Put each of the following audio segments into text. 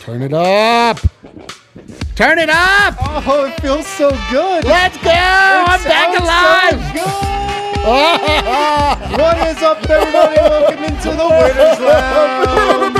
Turn it up. Turn it up. Oh, it feels so good. Let's go. I'm back alive. So good. What is up, everybody? Welcome into the Winners Lounge.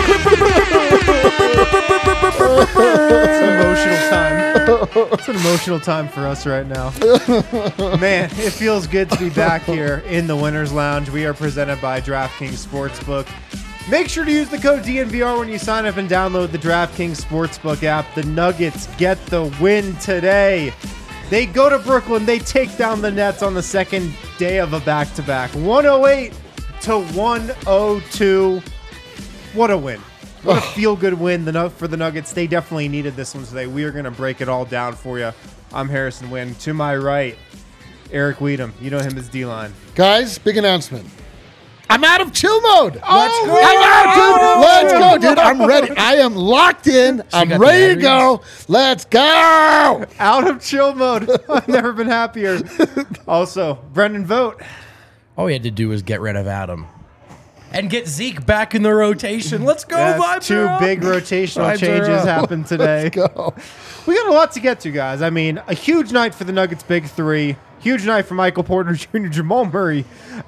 It's an emotional time. It's an emotional time for us right now. Man, it feels good to be back here in the Winners Lounge. We are presented by DraftKings Sportsbook. Make sure to use the code DNVR when you sign up and download the DraftKings Sportsbook app. The Nuggets get the win today. They go to Brooklyn. They take down the Nets on the second day of a back-to-back. 108 to 102. What a win. What a feel-good win for the Nuggets. They definitely needed this one today. We are going to break it all down for you. I'm Harrison Wynn. To my right, Eric Weedham. You know him as D-Line. Guys, big announcement. I'm out of chill mode. Let's go. I'm out, dude. Let's go, dude. I'm ready. I am locked in. I'm ready to go. Let's go. Out of chill mode. I've never been happier. Also, Brendan Vogt. All we had to do was get rid of Adam and get Zeke back in the rotation. Let's go. Yes, two big rotational changes happened today. Let's go. We got a lot to get to, guys. I mean, a huge night for the Nuggets' big three. Huge night for Michael Porter Jr., Jamal Murray.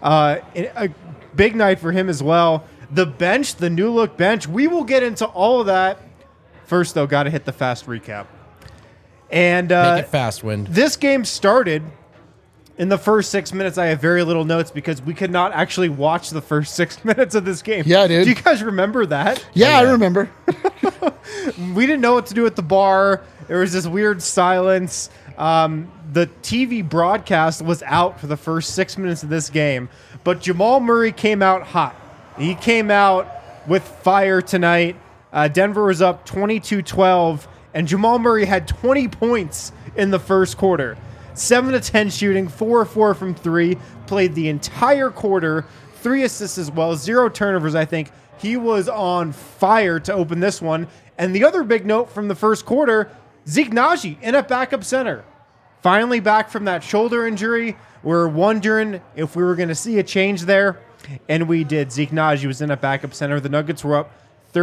A big night for him as well. The bench, the new look bench. We will get into all of that. First, though, got to hit the fast recap. And make it fast, Wind. This game started in the first 6 minutes. I have very little notes because we could not actually watch the first 6 minutes of this game. Yeah, dude. Do you guys remember that? Yeah, I remember. We didn't know what to do at the bar. There was this weird silence. The TV broadcast was out for the first 6 minutes of this game, but Jamal Murray came out hot. He came out with fire tonight. Denver was up 22-12, and Jamal Murray had 20 points in the first quarter. 7-10 shooting, 4-4 from three, played the entire quarter, 3 assists as well, 0 turnovers, I think. He was on fire to open this one. And the other big note from the first quarter, Zeke Naji in at backup center. Finally back from that shoulder injury. We're wondering if we were going to see a change there, and we did. Zeke Naji was in at backup center. The Nuggets were up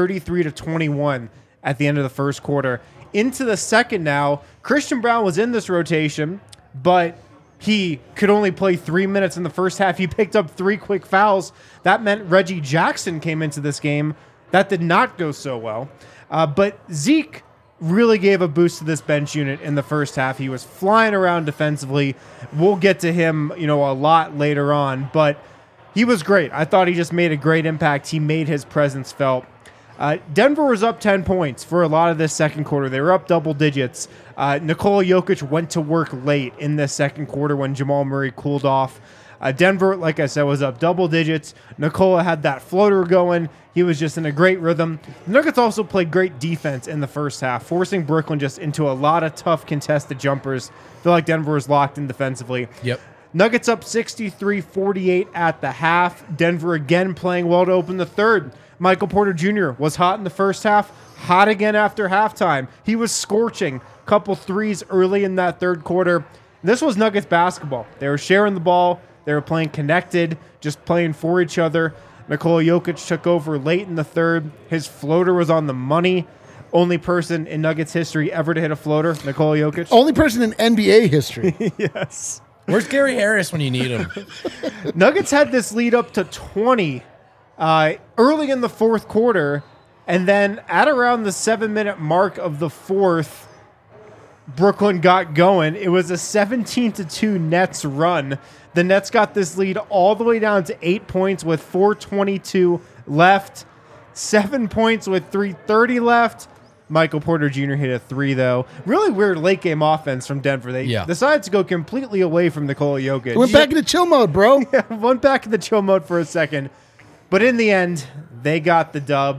33-21 at the end of the first quarter. Into the second now, Christian Braun was in this rotation, but he could only play 3 minutes in the first half. He picked up 3 quick fouls. That meant Reggie Jackson came into this game. That did not go so well. But Zeke really gave a boost to this bench unit in the first half. He was flying around defensively. We'll get to him, a lot later on, but he was great. I thought he just made a great impact. He made his presence felt. Denver was up 10 points for a lot of this second quarter. They were up double digits. Nikola Jokic went to work late in this second quarter when Jamal Murray cooled off. Denver, like I said, was up double digits. Nikola had that floater going. He was just in a great rhythm. The Nuggets also played great defense in the first half, forcing Brooklyn just into a lot of tough contested jumpers. I feel like Denver was locked in defensively. Yep. Nuggets up 63-48 at the half. Denver again playing well to open the third. Michael Porter Jr. was hot in the first half, hot again after halftime. He was scorching. Couple threes early in that third quarter. This was Nuggets basketball. They were sharing the ball. They were playing connected, just playing for each other. Nikola Jokic took over late in the third. His floater was on the money. Only person in Nuggets history ever to hit a floater, Nikola Jokic. Only person in NBA history. Yes. Where's Gary Harris when you need him? Nuggets had this lead up to 20 early in the fourth quarter, and then at around the 7-minute mark of the fourth, Brooklyn got going. It was a 17-2 Nets run. The Nets got this lead all the way down to 8 points with 4:22 left. 7 points with 3:30 left. Michael Porter Jr. hit a 3, though. Really weird late-game offense from Denver. They decided to go completely away from Nikola Jokic. Went back into chill mode, bro. Yeah, went back into chill mode for a second. But in the end, they got the dub.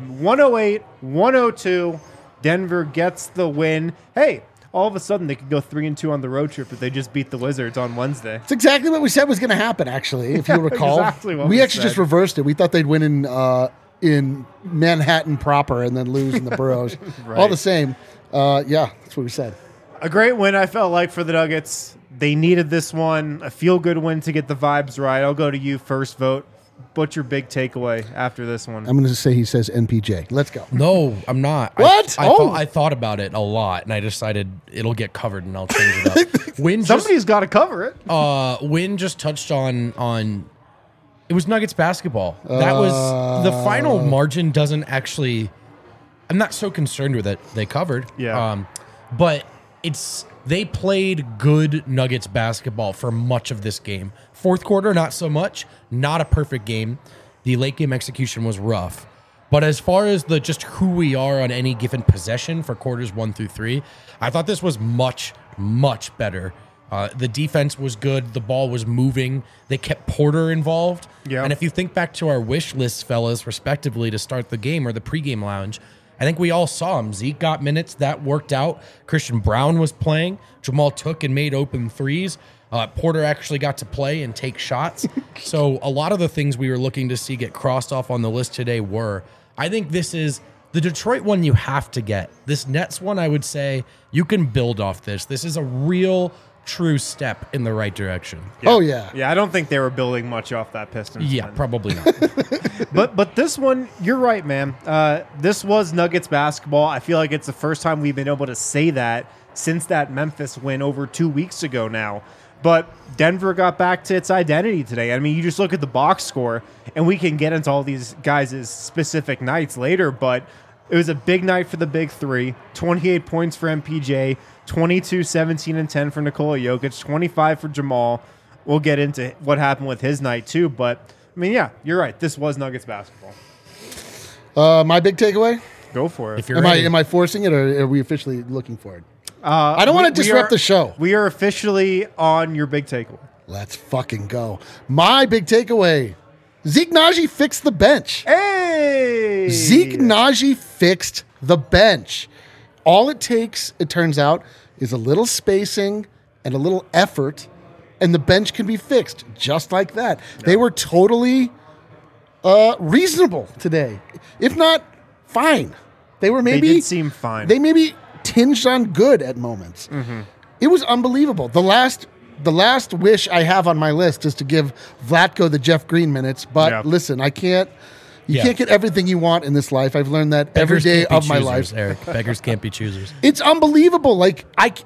108-102. Denver gets the win. Hey, all of a sudden they could go 3-2 on the road trip if they just beat the Wizards on Wednesday. It's exactly what we said was going to happen, actually, if you recall. Exactly what we we actually said. just reversed it. We thought they'd win in Manhattan proper and then lose in the boroughs. Right. All the same. Yeah, that's what we said. A great win, I felt like, for the Nuggets. They needed this one, a feel-good win to get the vibes right. I'll go to you first, Vote. what's your big takeaway after this one? I'm going to say he says NPJ. Let's go. No, I'm not. What? I thought about it a lot, and I decided it'll get covered, and I'll change it up. Win Somebody's got to cover it. Win just touched on. It was Nuggets basketball. That was the final margin. Doesn't actually. I'm not so concerned with it. They covered. Yeah. But they played good Nuggets basketball for much of this game. Fourth quarter, not so much. Not a perfect game. The late game execution was rough. But as far as just who we are on any given possession for quarters 1 through 3, I thought this was much, much better. The defense was good. The ball was moving. They kept Porter involved. Yeah. And if you think back to our wish lists, fellas, respectively, to start the game or the pregame lounge, I think we all saw him. Zeke got minutes. That worked out. Christian Brown was playing. Jamal took and made open threes. Porter actually got to play and take shots. So a lot of the things we were looking to see get crossed off on the list today were. I think this is the Detroit one you have to get. This Nets one, I would say, you can build off this. This is a real, true step in the right direction. Yeah. Oh, yeah. Yeah, I don't think they were building much off that Pistons. Yeah, win. probably not. But this one, you're right, man. This was Nuggets basketball. I feel like it's the first time we've been able to say that since that Memphis win over 2 weeks ago now. But Denver got back to its identity today. I mean, you just look at the box score, and we can get into all these guys' specific nights later, but it was a big night for the big three. 28 points for MPJ, 22, 17, and 10 for Nikola Jokic, 25 for Jamal. We'll get into what happened with his night too, but I mean, yeah, you're right. This was Nuggets basketball. My big takeaway? Go for it. If you're Am I forcing it, or are we officially looking for it? I don't want to disrupt the show. We are officially on your big takeaway. Let's fucking go. My big takeaway. Zeke Naji fixed the bench. Hey! Zeke Naji fixed the bench. All it takes, it turns out, is a little spacing and a little effort, and the bench can be fixed just like that. Yeah. They were totally reasonable today. If not, fine. They did seem fine. They maybe tinged on good at moments. Mm-hmm. It was unbelievable. The last wish I have on my list is to give Vlatko the Jeff Green minutes, but listen, I can't. You can't get everything you want in this life. I've learned that every day of my life. Eric, beggars can't be choosers. It's unbelievable. Like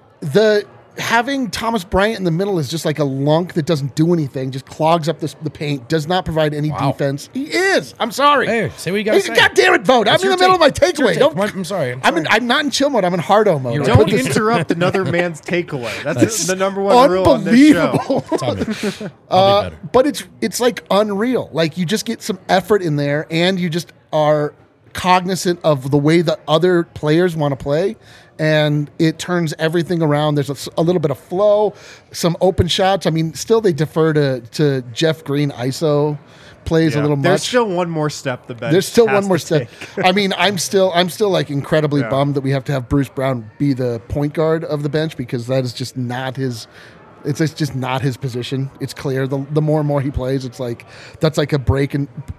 having Thomas Bryant in the middle is just like a lunk that doesn't do anything, just clogs up the paint, does not provide any defense. He is. I'm sorry. Hey, say what you got to say. God damn it, vote. I'm in the middle of my takeaway. I'm sorry. I'm not in chill mode. I'm in hardo mode. Don't interrupt another man's takeaway. That's the number one rule on this show. I'll be better. But it's like unreal. Like you just get some effort in there, and you just are cognizant of the way the other players want to play, and it turns everything around. There's a little bit of flow, some open shots. I mean, still they defer to Jeff Green ISO plays a little much. There's still one more step the bench. There's still one more step. I mean, I'm still like incredibly bummed that we have to have Bruce Brown be the point guard of the bench, because that is just not his. It's just not his position. It's clear. The more and more he plays, it's like that's like a break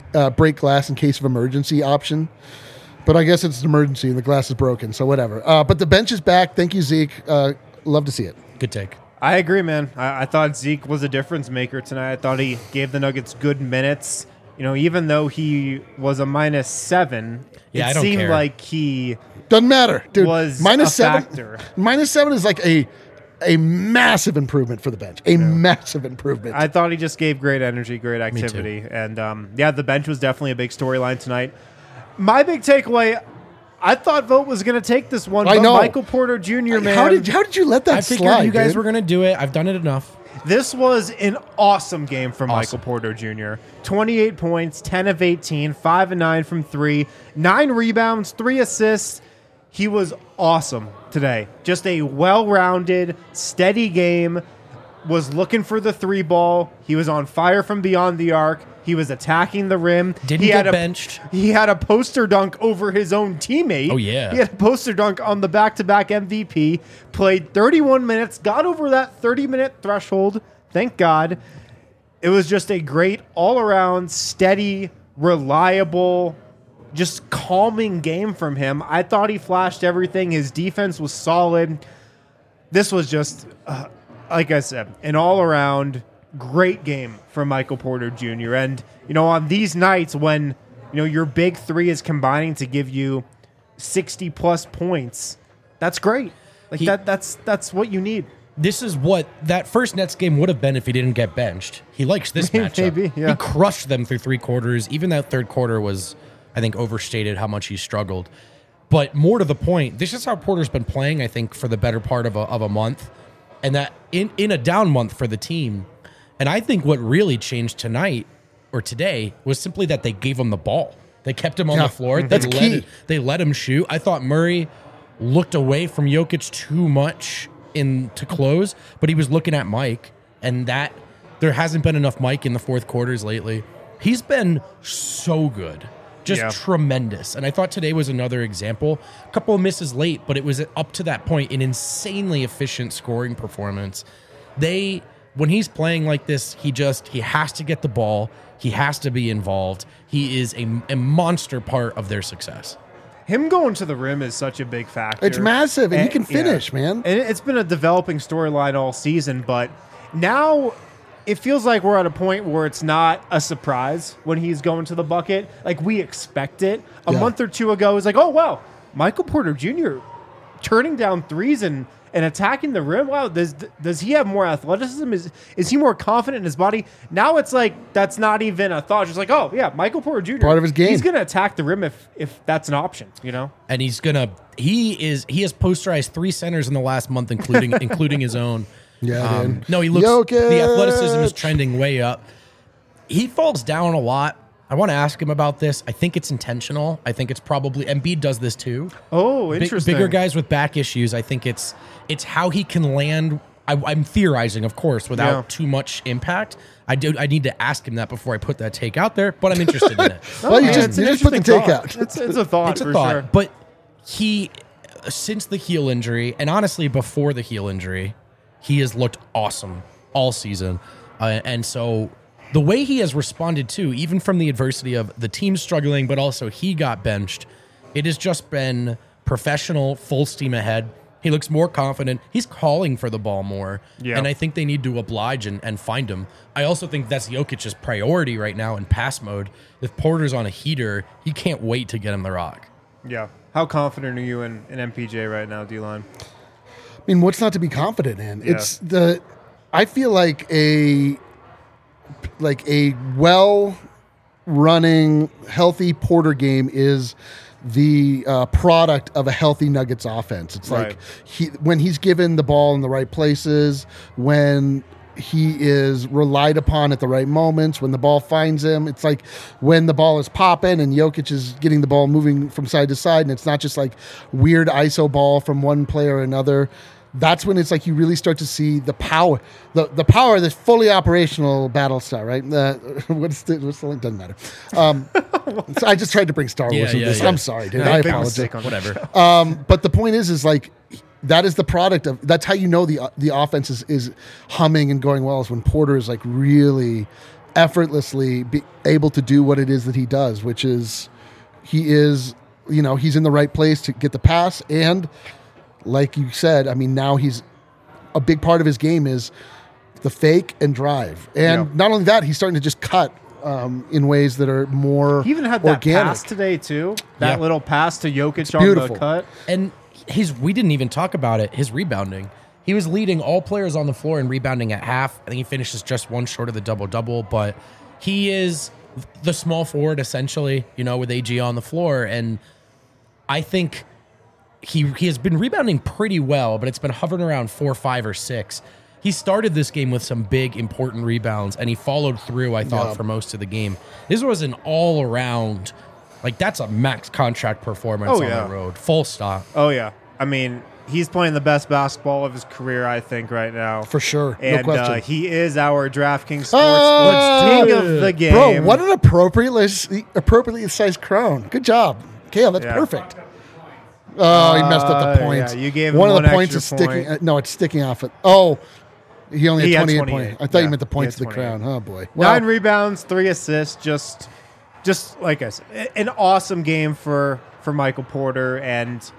glass in case of emergency option. But I guess it's an emergency and the glass is broken, so whatever. But the bench is back. Thank you, Zeke. Love to see it. Good take. I agree, man. I thought Zeke was a difference maker tonight. I thought he gave the Nuggets good minutes. You know, even though he was a -7, it seemed like he doesn't matter, dude. Was -7. Factor. -7 is like a massive improvement for the bench. Massive improvement. I thought he just gave great energy, great activity. And, the bench was definitely a big storyline tonight. My big takeaway, I thought Vogt was going to take this one. I know. Michael Porter Jr., man. How did you let that slide? I figured you guys were going to do it. I've done it enough. This was an awesome game from Michael Porter Jr. 28 points, 10 of 18, 5 of 9 from 3, 9 rebounds, 3 assists. He was awesome today. Just a well-rounded, steady game. Was looking for the 3 ball. He was on fire from beyond the arc. He was attacking the rim. Didn't get benched. He had a poster dunk over his own teammate. Oh, yeah. He had a poster dunk on the back-to-back MVP. Played 31 minutes. Got over that 30-minute threshold. Thank God. It was just a great all-around, steady, reliable, just calming game from him. I thought he flashed everything. His defense was solid. This was just, like I said, an all-around great game from Michael Porter Jr. And, on these nights when, your big three is combining to give you 60-plus points, that's great. Like, that's what you need. This is what that first Nets game would have been if he didn't get benched. He likes this matchup. Maybe, yeah. He crushed them through 3 quarters. Even that third quarter was, I think, overstated how much he struggled. But more to the point, this is how Porter's been playing, I think, for the better part of a month. And that in a down month for the team. And I think what really changed tonight or today was simply that they gave him the ball. They kept him on the floor. That's key. They let him shoot. I thought Murray looked away from Jokic too much to close, but he was looking at Mike, and that there hasn't been enough Mike in the fourth quarters lately. He's been so good. Just tremendous. And I thought today was another example. A couple of misses late, but it was up to that point an insanely efficient scoring performance. When he's playing like this, he has to get the ball. He has to be involved. He is a monster part of their success. Him going to the rim is such a big factor. It's massive, and he can finish, man. And it's been a developing storyline all season, but now it feels like we're at a point where it's not a surprise when he's going to the bucket. Like, we expect it. A month or two ago, it was like, oh, wow, Michael Porter Jr. turning down threes and attacking the rim. Wow, does he have more athleticism? Is he more confident in his body? Now it's like that's not even a thought. Just like, oh, yeah, Michael Porter Jr. Part of his game. He's going to attack the rim if that's an option, And he has posterized 3 centers in the last month, including his own. Yeah, no, he looks. Jokic. The athleticism is trending way up. He falls down a lot. I want to ask him about this. I think it's intentional. I think it's probably Embiid does this too. Oh, interesting. Bigger guys with back issues. I think it's how he can land. I'm theorizing, of course, without too much impact. I need to ask him that before I put that take out there, but I'm interested in it. Well, you just put the take out. It's a thought. It's a for thought. Sure. But since the heel injury, and honestly before the heel injury, he has looked awesome all season. And so the way he has responded to, even from the adversity of the team struggling, but also he got benched, it has just been professional, full steam ahead. He looks more confident. He's calling for the ball more. Yeah. And I think they need to oblige and find him. I also think that's Jokic's priority right now in pass mode. If Porter's on a heater, he can't wait to get him the rock. Yeah. How confident are you in MPJ right now, D-Line? I mean, what's not to be confident in? Yeah. I feel like a well-running, healthy Porter game is the product of a healthy Nuggets offense. It's like when he's given the ball in the right places, when he is relied upon at the right moments, when the ball finds him. It's like when the ball is popping and Jokic is getting the ball moving from side to side, and it's not just like weird ISO ball from one player or another. That's when it's like you really start to see the power, the power of this fully operational Battlestar, right? What's the link? Doesn't matter. So I just tried to bring Star Wars into this. Yeah. I'm sorry, dude. I apologize. Whatever. But the point is like that is the product of. That's how you know the offense is humming and going well, is when Porter is like really effortlessly able to do what it is that he does, which is he's in the right place to get the pass. And like you said, I mean, now he's a big part of his game is the fake and drive. And not only that, he's starting to just cut in ways that are more He even had organic. That pass today, too. That little pass to Jokic on beautiful. The cut. And we didn't even talk about it, his rebounding. He was leading all players on the floor in rebounding at half. I think he finishes just one short of the double-double, but he is the small forward, essentially, with AG on the floor. And I think he has been rebounding pretty well, but it's been hovering around 4, 5, or 6. He started this game with some big, important rebounds, and he followed through, I thought, for most of the game. This was an all-around, that's a max contract performance on the road. Full stop. Oh, yeah. I mean, he's playing the best basketball of his career, I think, right now. For sure. And no question. He is our DraftKings Sportsbook king of the game. Bro, what an appropriately sized crown. Good job. Kale, that's perfect. Oh, he messed up the points. Yeah, you gave him one of the points is sticking. No, it's sticking off it. Oh, he only had 28 points. I thought you meant the points of the crown. Oh boy, 9 rebounds, 3 assists. Just like I said, an awesome game for Michael Porter. And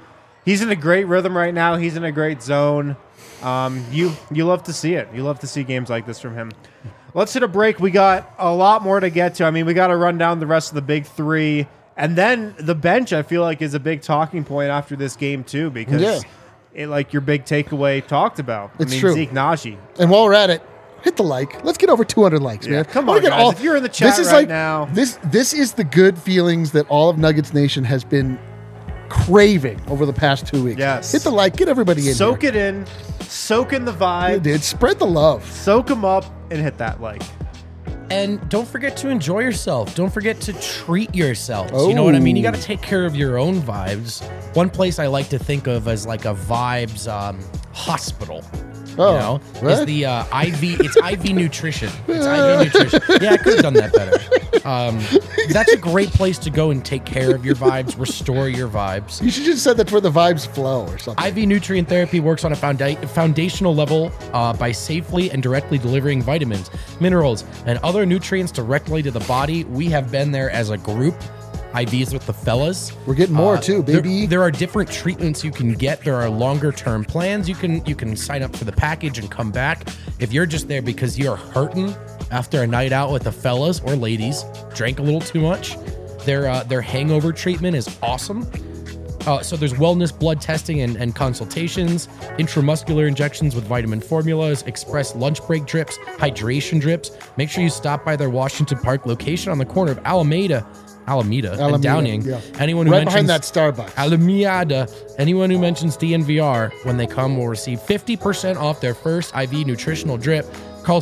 He's in a great rhythm right now. He's in a great zone. You love to see it. You love to see games like this from him. Let's hit a break. We got a lot more to get to. I mean, we got to run down the rest of the big three. And then the bench, I feel like, is a big talking point after this game, too, because like your big takeaway talked about. It's true. Zeke Nnaji. And while we're at it, hit the like. Let's get over 200 likes, man. Come on, guys. If you're in the chat right now. This is the good feelings that all of Nuggets Nation has been craving over the past 2 weeks. Yes. Hit the like. Get everybody in Soak it in. Soak in the vibe. Yeah, dude. Spread the love. Soak them up and hit that like. And don't forget to enjoy yourself. Don't forget to treat yourselves. You know what I mean? You got to take care of your own vibes. One place I like to think of as like a vibes hospital. Oh, is the IV. It's IV nutrition. It's IV nutrition. Yeah, I could have done that better. That's a great place to go and take care of your vibes, restore your vibes. You should just said that's where the vibes flow or something. IV nutrient therapy works on a foundational level by safely and directly delivering vitamins, minerals, and other nutrients directly to the body. We have been there as a group. IVs with the fellas. We're getting more too, baby. There are different treatments you can get. There are longer term plans. You can sign up for the package and come back. If you're just there because you're hurting after a night out with the fellas or ladies, drank a little too much, their hangover treatment is awesome. So there's wellness blood testing and consultations, intramuscular injections with vitamin formulas, express lunch break drips, hydration drips. Make sure you stop by their Washington Park location on the corner of Alameda and Downing. Yeah. Anyone who right mentions behind that Starbucks. Alameda, anyone who mentions DNVR when they come will receive 50% off their first IV nutritional drip. Call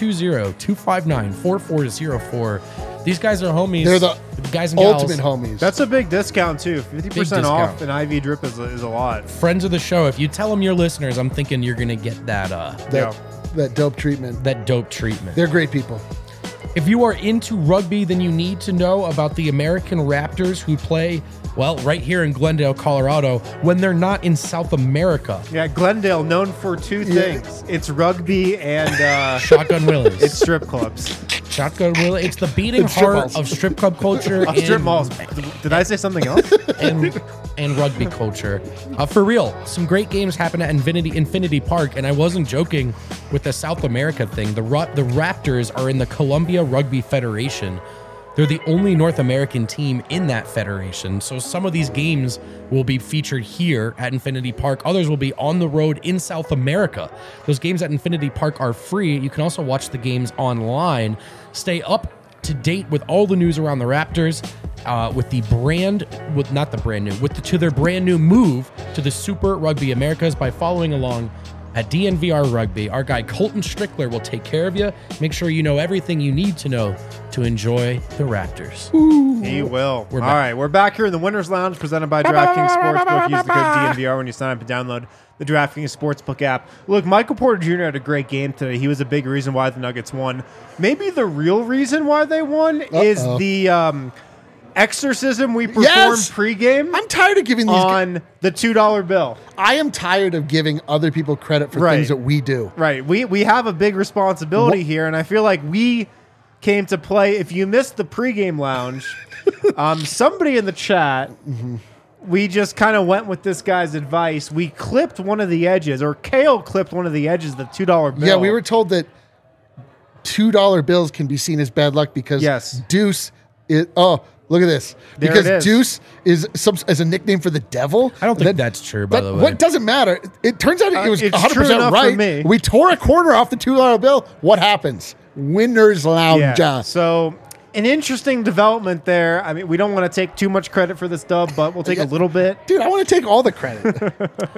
720-259-4404. These guys are homies. They're the guys and gals. ultimate homies. That's a big discount, too. 50% off an IV drip is a lot. Friends of the show, if you tell them you're listeners, I'm thinking you're going to get that dope treatment. That dope treatment. They're great people. If you are into rugby, then you need to know about the American Raptors who play, well, right here in Glendale, Colorado, when they're not in South America. Yeah, Glendale, known for two things. It's rugby and... Shotgun Willies. It's strip clubs. Shotgun Willie. It's the beating heart of strip club culture. Strip malls. Did I say something else? and rugby culture. For real, some great games happen at Infinity Park, and I wasn't joking with the South America thing. The Raptors are in the Columbia Rugby Federation. They're the only North American team in that federation. So some of these games will be featured here at Infinity Park. Others will be on the road in South America. Those games at Infinity Park are free. You can also watch the games online. Stay up to date with all the news around the Raptors, to their brand new move to the Super Rugby Americas by following along at DNVR Rugby. Our guy Colton Strickler will take care of you. Make sure you know everything you need to know to enjoy the Raptors. Ooh. He will. All right, we're back here in the Winners Lounge presented by DraftKings Sportsbook. Use the code DNVR when you sign up and download the DraftKings Sportsbook app. Look, Michael Porter Jr. had a great game today. He was a big reason why the Nuggets won. Maybe the real reason why they won is the exorcism we performed pregame. I'm tired of giving these on the $2 bill. I am tired of giving other people credit for things that we do. Right. We have a big responsibility here, and I feel like we came to play. If you missed the pregame lounge, somebody in the chat, we just kind of went with this guy's advice. We clipped one of the edges, or Kale clipped one of the edges of the $2 bill. Yeah, we were told that $2 bills can be seen as bad luck because Deuce is... Oh, look at this. Because Deuce is a nickname for the devil. I don't think that's true, by the way. What doesn't matter. It turns out it was 100% right. For me. We tore a corner off the $2 bill. What happens? Winners Lounge. Yeah. So an interesting development there. I mean, we don't want to take too much credit for this dub, but we'll take a little bit. Dude, I want to take all the credit.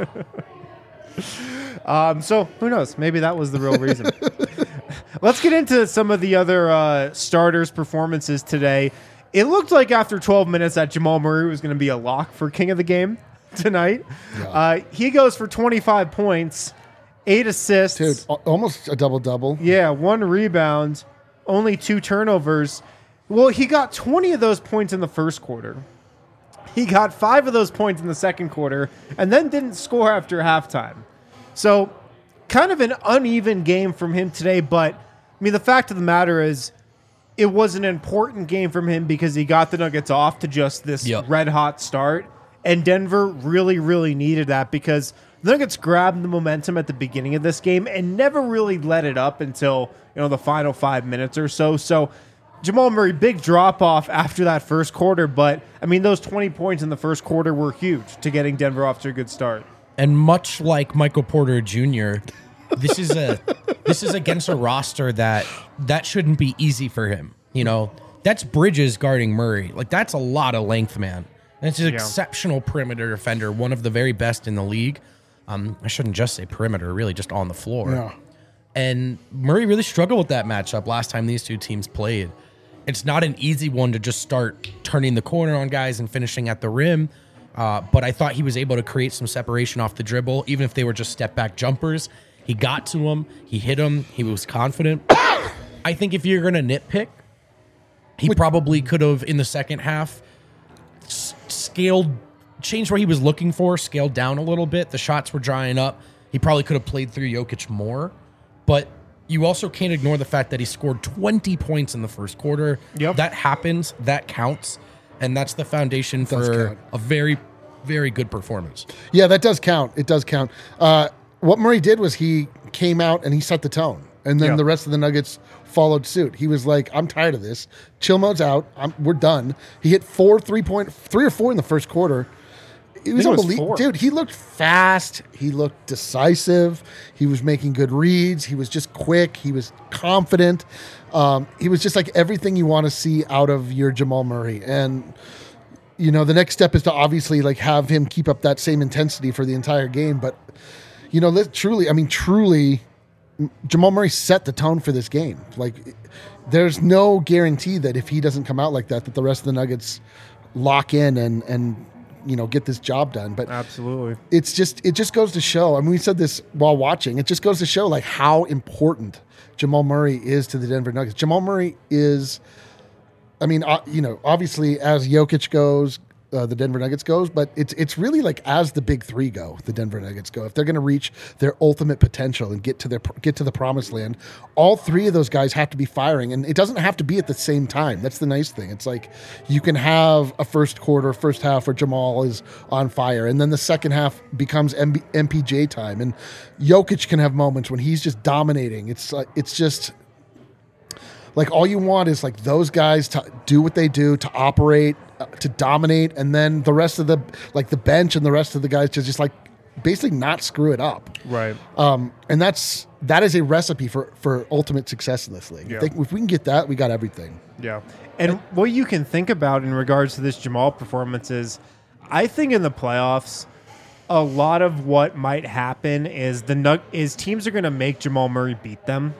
So who knows? Maybe that was the real reason. Let's get into some of the other starters' performances today. It looked like after 12 minutes that Jamal Murray was going to be a lock for king of the game tonight. Yeah. He goes for 25 points, 8 assists. Dude, almost a double-double. Yeah, 1 rebound, only 2 turnovers. Well, he got 20 of those points in the first quarter. He got 5 of those points in the second quarter, and then didn't score after halftime. So, kind of an uneven game from him today, but, I mean, the fact of the matter is, it was an important game from him because he got the Nuggets off to just this red-hot start, And Denver really, really needed that because the Nuggets grabbed the momentum at the beginning of this game and never really let it up until, the final 5 minutes or so. So Jamal Murray, big drop off after that first quarter, but I mean, those 20 points in the first quarter were huge to getting Denver off to a good start. And much like Michael Porter Jr., this is against a roster that shouldn't be easy for him. That's Bridges guarding Murray. Like, that's a lot of length, man. And it's an exceptional perimeter defender, one of the very best in the league. I shouldn't just say perimeter, really just on the floor. Yeah. And Murray really struggled with that matchup last time these two teams played. It's not an easy one to just start turning the corner on guys and finishing at the rim. But I thought he was able to create some separation off the dribble, even if they were just step-back jumpers. He got to him. He hit him. He was confident. I think if you're going to nitpick, he probably could have, in the second half, changed what he was looking for, scaled down a little bit. The shots were drying up. He probably could have played through Jokic more. But you also can't ignore the fact that he scored 20 points in the first quarter. Yep. That happens. That counts. And that's the foundation for a very, very good performance. Yeah, that does count. It does count. What Murray did was he came out and he set the tone. And then the rest of the Nuggets followed suit. He was like, I'm tired of this. Chill mode's out. We're done. He hit 3 or 4 in the first quarter. It was unbelievable. Dude, he looked fast. He looked decisive. He was making good reads. He was just quick. He was confident. He was just like everything you want to see out of your Jamal Murray. And, the next step is to obviously like have him keep up that same intensity for the entire game. But, truly, Jamal Murray set the tone for this game. Like, there's no guarantee that if he doesn't come out like that the rest of the Nuggets lock in and get this job done. But absolutely, it just goes to show. I mean, we said this while watching. It just goes to show like how important Jamal Murray is to the Denver Nuggets. Jamal Murray is, obviously as Jokic goes, the Denver Nuggets goes, but it's really like as the big three go, the Denver Nuggets go. If they're going to reach their ultimate potential and get to the promised land, all three of those guys have to be firing, and it doesn't have to be at the same time. That's the nice thing. It's like you can have a first half where Jamal is on fire, and then the second half becomes MPJ time, and Jokic can have moments when he's just dominating. It's just. Like, all you want is, like, those guys to do what they do, to operate, to dominate, and then the rest of the bench and the rest of the guys to just, like, basically not screw it up. Right. And that is a recipe for ultimate success in this league. Yeah. If we can get that, we got everything. Yeah. And what you can think about in regards to this Jamal performance is, I think in the playoffs, a lot of what might happen is teams are going to make Jamal Murray beat them.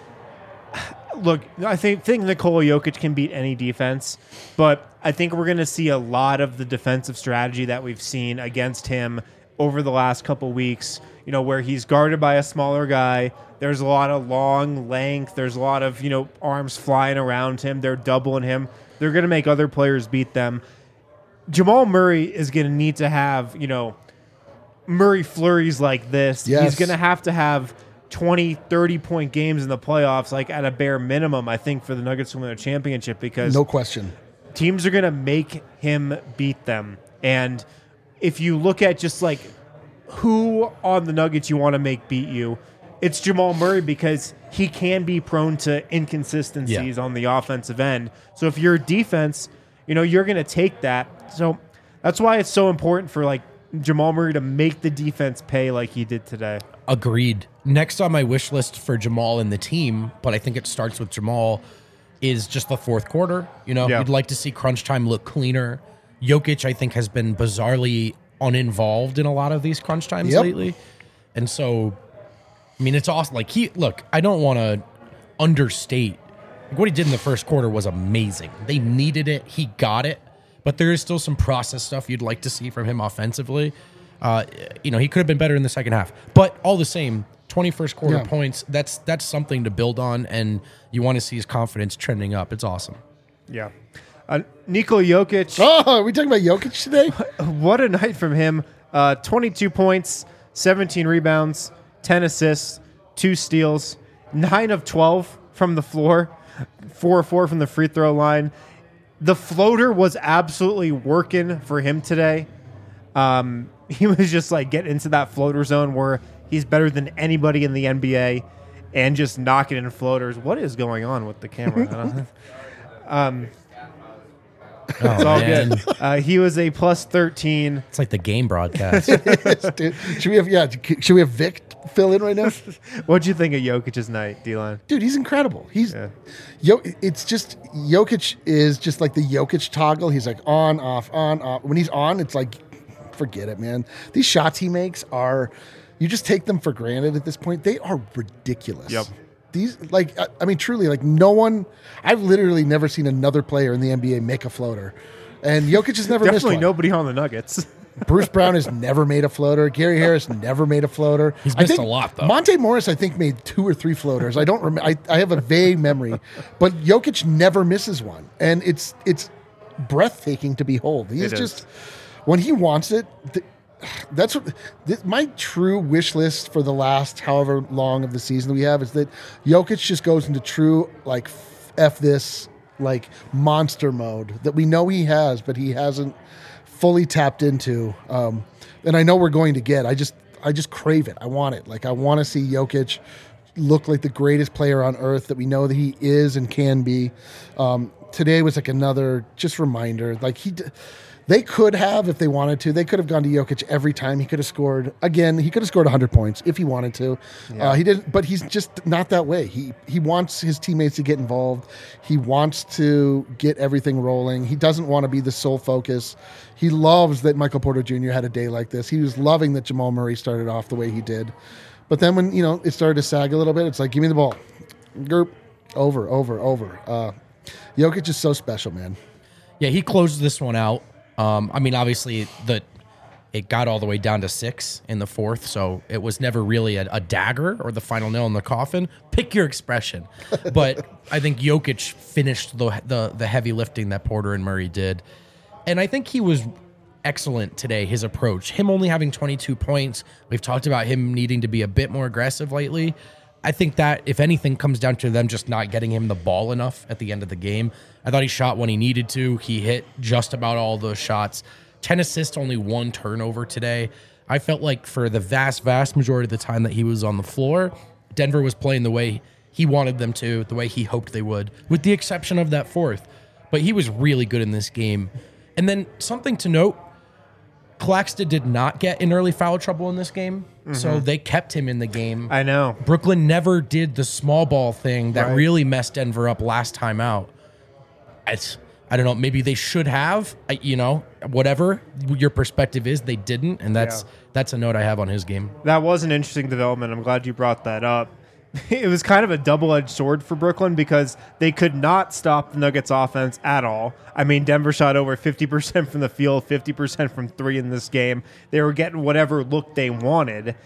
Look, I think Nikola Jokic can beat any defense, but I think we're going to see a lot of the defensive strategy that we've seen against him over the last couple weeks, where he's guarded by a smaller guy. There's a lot of long length. There's a lot of, arms flying around him. They're doubling him. They're going to make other players beat them. Jamal Murray is going to need to have, Murray flurries like this. Yes. He's going to have 20, 30-point games in the playoffs, like at a bare minimum, I think, for the Nuggets to win a championship, because no question, teams are going to make him beat them. And if you look at just like who on the Nuggets you want to make beat you, it's Jamal Murray, because he can be prone to inconsistencies on the offensive end. So if you're a defense, you're going to take that. So that's why it's so important for like Jamal Murray to make the defense pay like he did today. Agreed. Next on my wish list for Jamal and the team, but I think it starts with Jamal, is just the fourth quarter. You'd like to see crunch time look cleaner. Jokic, I think, has been bizarrely uninvolved in a lot of these crunch times lately. And so, it's awesome. Like, I don't want to understate. Like, what he did in the first quarter was amazing. They needed it. He got it. But there is still some process stuff you'd like to see from him offensively. He could have been better in the second half. But all the same, 21st quarter points, that's something to build on, and you want to see his confidence trending up. It's awesome. Yeah. Nikola Jokic. Oh, are we talking about Jokic today? What a night from him. 22 points, 17 rebounds, 10 assists, 2 steals, 9 of 12 from the floor, 4 of 4 from the free throw line. The floater was absolutely working for him today. He was just like getting into that floater zone where he's better than anybody in the NBA and just knocking in floaters. What is going on with the camera? It's all good. He was a plus 13. It's like the game broadcast. Dude, should we have Vic fill in right now? What'd you think of Jokic's night, D-Line? Dude, he's incredible. It's just Jokic is just like the Jokic toggle. He's like on, off, on, off. When he's on, it's like, forget it, man. These shots he makes are, you just take them for granted at this point. They are ridiculous. Yep. These, like, I mean, truly, like, no one, I've literally never seen another player in the NBA make a floater. And Jokic has never missed one. Definitely nobody on the Nuggets. Bruce Brown has never made a floater. Gary Harris never made a floater. He's missed a lot, though. Monte Morris, I think, made 2 or 3 floaters. I don't remember. I have a vague memory. But Jokic never misses one. And it's breathtaking to behold. He's just, when he wants it, that's what my true wish list for the last however long of the season we have is that Jokic just goes into true, like, F this, like, monster mode that we know he has, but he hasn't fully tapped into. And I know we're going to get. I just crave it. I want it. Like, I want to see Jokic look like the greatest player on earth that we know that he is and can be. Today was like another just reminder. Like, they could have, if they wanted to, they could have gone to Jokic every time. He could have scored, again, he could have scored 100 points if he wanted to. Yeah. He didn't, but he's just not that way. He wants his teammates to get involved. He wants to get everything rolling. He doesn't want to be the sole focus. He loves that Michael Porter Jr. had a day like this. He was loving that Jamal Murray started off the way he did. But then when, it started to sag a little bit, it's like, give me the ball. Gerp, over. Jokic is so special, man. Yeah, he closed this one out. I mean, obviously, it got all the way down to 6 in the fourth, so it was never really a dagger or the final nail in the coffin. Pick your expression. But I think Jokic finished the heavy lifting that Porter and Murray did. And I think he was excellent today, his approach. Him only having 22 points. We've talked about him needing to be a bit more aggressive lately. I think that, if anything, comes down to them just not getting him the ball enough at the end of the game. I thought he shot when he needed to. He hit just about all those shots. 10 assists, only 1 turnover today. I felt like for the vast majority of the time that he was on the floor, Denver was playing the way he wanted them to, the way he hoped they would, with the exception of that fourth. But he was really good in this game. And then something to note, Claxton did not get in early foul trouble in this game, so they kept him in the game. I know. Brooklyn never did the small ball thing that really messed Denver up last time out. I don't know, maybe they should have, whatever your perspective is, they didn't, and that's a note I have on his game. That was an interesting development. I'm glad you brought that up. It was kind of a double-edged sword for Brooklyn because they could not stop the Nuggets offense at all. I mean, Denver shot over 50% from the field, 50% from 3 in this game. They were getting whatever look they wanted.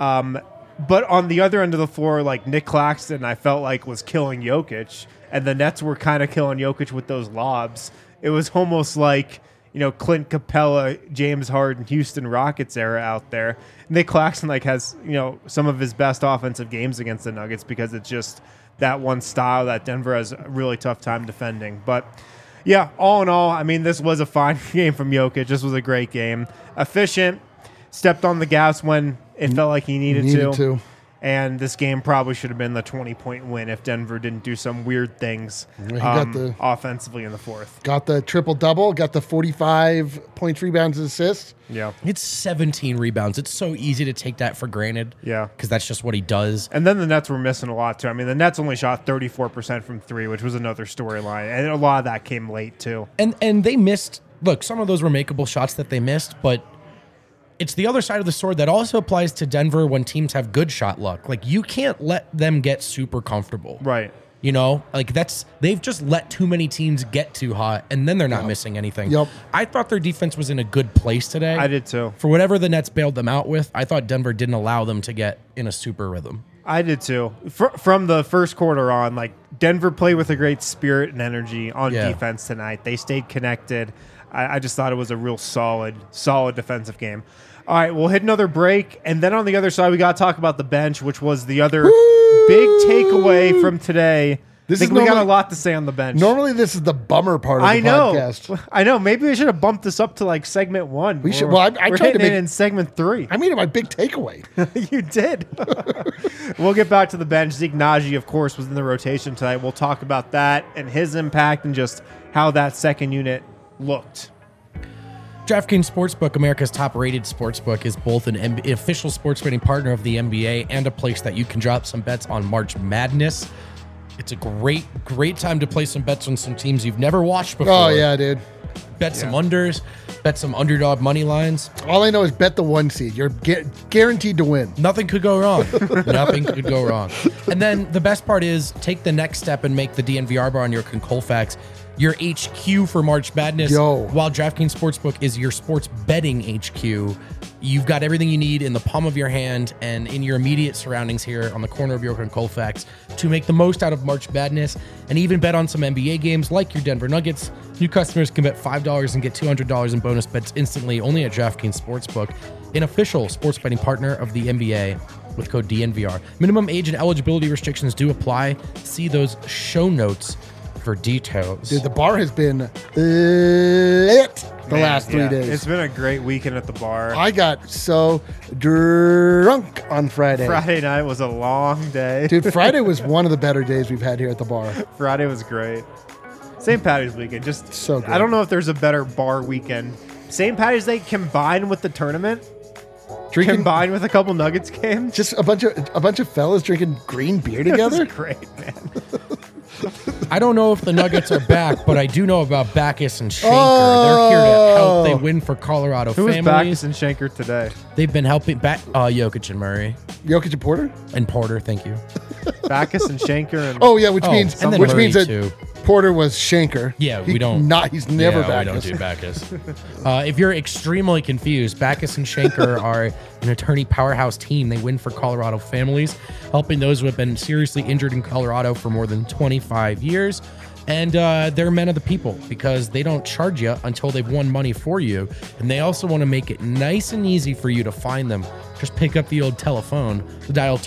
But on the other end of the floor, like Nick Claxton, I felt like was killing Jokic, and the Nets were kind of killing Jokic with those lobs. It was almost like, Clint Capella, James Harden, Houston Rockets era out there. Nick Claxton has, some of his best offensive games against the Nuggets because it's just that one style that Denver has a really tough time defending. But yeah, all in all, I mean, this was a fine game from Jokic. This was a great game. Efficient, stepped on the gas when it felt like he needed to. And this game probably should have been the 20-point win if Denver didn't do some weird things offensively in the fourth. Got the triple-double, got the 45 points, rebounds, and assists. Yeah. It's 17 rebounds. It's so easy to take that for granted. Yeah. Because that's just what he does. And then the Nets were missing a lot, too. I mean, the Nets only shot 34% from 3, which was another storyline. And a lot of that came late, too. And they missed, look, some of those were makeable shots that they missed, but it's the other side of the sword that also applies to Denver when teams have good shot luck. Like, you can't let them get super comfortable. Right. They've just let too many teams get too hot, and then they're not missing anything. Yep. I thought their defense was in a good place today. I did too. For whatever the Nets bailed them out with, I thought Denver didn't allow them to get in a super rhythm. I did too. From the first quarter on, Denver played with a great spirit and energy on defense tonight. They stayed connected. I just thought it was a real solid defensive game. All right, we'll hit another break, and then on the other side, we got to talk about the bench, which was the other big takeaway from today. This I is think we got a normally, lot to say on the bench. normally this is the bummer part of the podcast. I know. Maybe we should have bumped this up to like segment 1. We should. Well, I we're tried to hitting make it in segment 3. I made it my big takeaway. You did. We'll get back to the bench. Zeke Naji, of course, was in the rotation tonight. We'll talk about that and his impact and just how that second unit looked. DraftKings Sportsbook, America's top-rated sportsbook, is both an official sports betting partner of the NBA and a place that you can drop some bets on March Madness. It's a great time to play some bets on some teams you've never watched before. Oh yeah, dude. Bet some unders, bet some underdog money lines. All I know is bet the 1 seed. You're guaranteed to win. Nothing could go wrong. Nothing could go wrong. And then the best part is take the next step and make the DNVR bar on your Colfax your HQ for March Madness. While DraftKings Sportsbook is your sports betting HQ, you've got everything you need in the palm of your hand and in your immediate surroundings here on the corner of York and Colfax to make the most out of March Madness and even bet on some NBA games like your Denver Nuggets. New customers can bet $5 and get $200 in bonus bets instantly only at DraftKings Sportsbook, an official sports betting partner of the NBA with code DNVR. Minimum age and eligibility restrictions do apply. See those show notes for details. Dude, the bar has been lit the last 3 days. It's been a great weekend at the bar. I got so drunk on Friday. Friday night was a long day. Dude, Friday was one of the better days we've had here at the bar. Friday was great. St. Patty's weekend, just so good. I don't know if there's a better bar weekend. St. Patty's Day combined with the tournament, combined with a couple Nuggets games. Just a bunch of fellas drinking green beer together. It was great, man. I don't know if the Nuggets are back, but I do know about Backus and Schenker. They're here to help. They win for Colorado Who families. was Backus and Schenker today? They've been helping Jokic and Murray. Jokic and Porter? And Porter, thank you. Backus and Schenker. And oh, yeah, which means Murray, that too. Porter was Schenker. Yeah, we don't. He's never Backus. We don't do Backus. If you're extremely confused, Backus and Schenker are an attorney powerhouse team. They win for Colorado families, helping those who have been seriously injured in Colorado for more than 25 years. And they're men of the people because they don't charge you until they've won money for you. And they also want to make it nice and easy for you to find them. Just pick up the old telephone, dial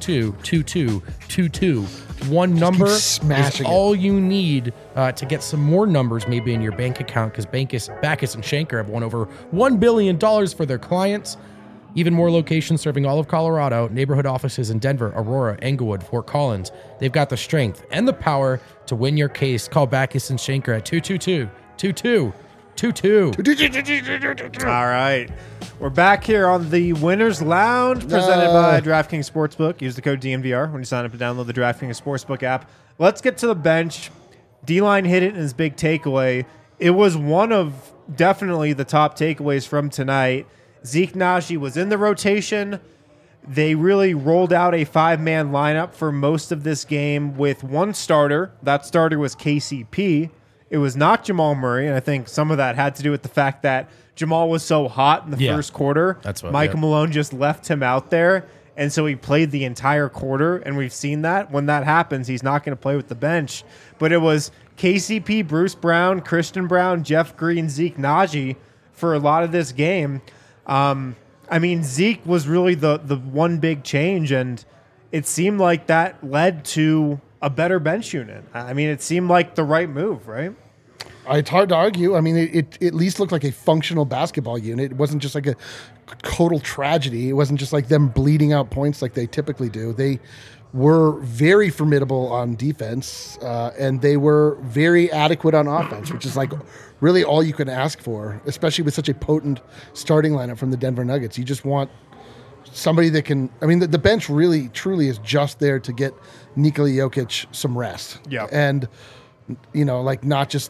222-2222. One number is all you need to get some more numbers maybe in your bank account because Backus and Schenker have won over $1 billion for their clients. Even more locations serving all of Colorado, neighborhood offices in Denver, Aurora, Englewood, Fort Collins. They've got the strength and the power to win your case. Call Backus and Schenker at 222-2222. All right. We're back here on the Winners Lounge presented by DraftKings Sportsbook. Use the code DNVR when you sign up and download the DraftKings Sportsbook app. Let's get to the bench. D-Line hit it in his big takeaway. It was one of definitely the top takeaways from tonight. Zeke Naji was in the rotation. They really rolled out a 5-man lineup for most of this game with one starter. That starter was KCP. It was not Jamal Murray, and I think some of that had to do with the fact that Jamal was so hot in the first quarter. That's what Michael Malone just left him out there, and so he played the entire quarter, and we've seen that. When that happens, he's not going to play with the bench. But it was KCP, Bruce Brown, Christian Brown, Jeff Green, Zeke Naji for a lot of this game. I mean, Zeke was really the one big change, and it seemed like that led to a better bench unit. I mean, it seemed like the right move, right? It's hard to argue. I mean, it at least looked like a functional basketball unit. It wasn't just like a total tragedy. It wasn't just like them bleeding out points like they typically do. They were very formidable on defense, and they were very adequate on offense, which is like really all you can ask for, especially with such a potent starting lineup from the Denver Nuggets. You just want somebody that can. I mean, the bench really, truly is just there to get Nikola Jokic some rest. Yeah, and like not just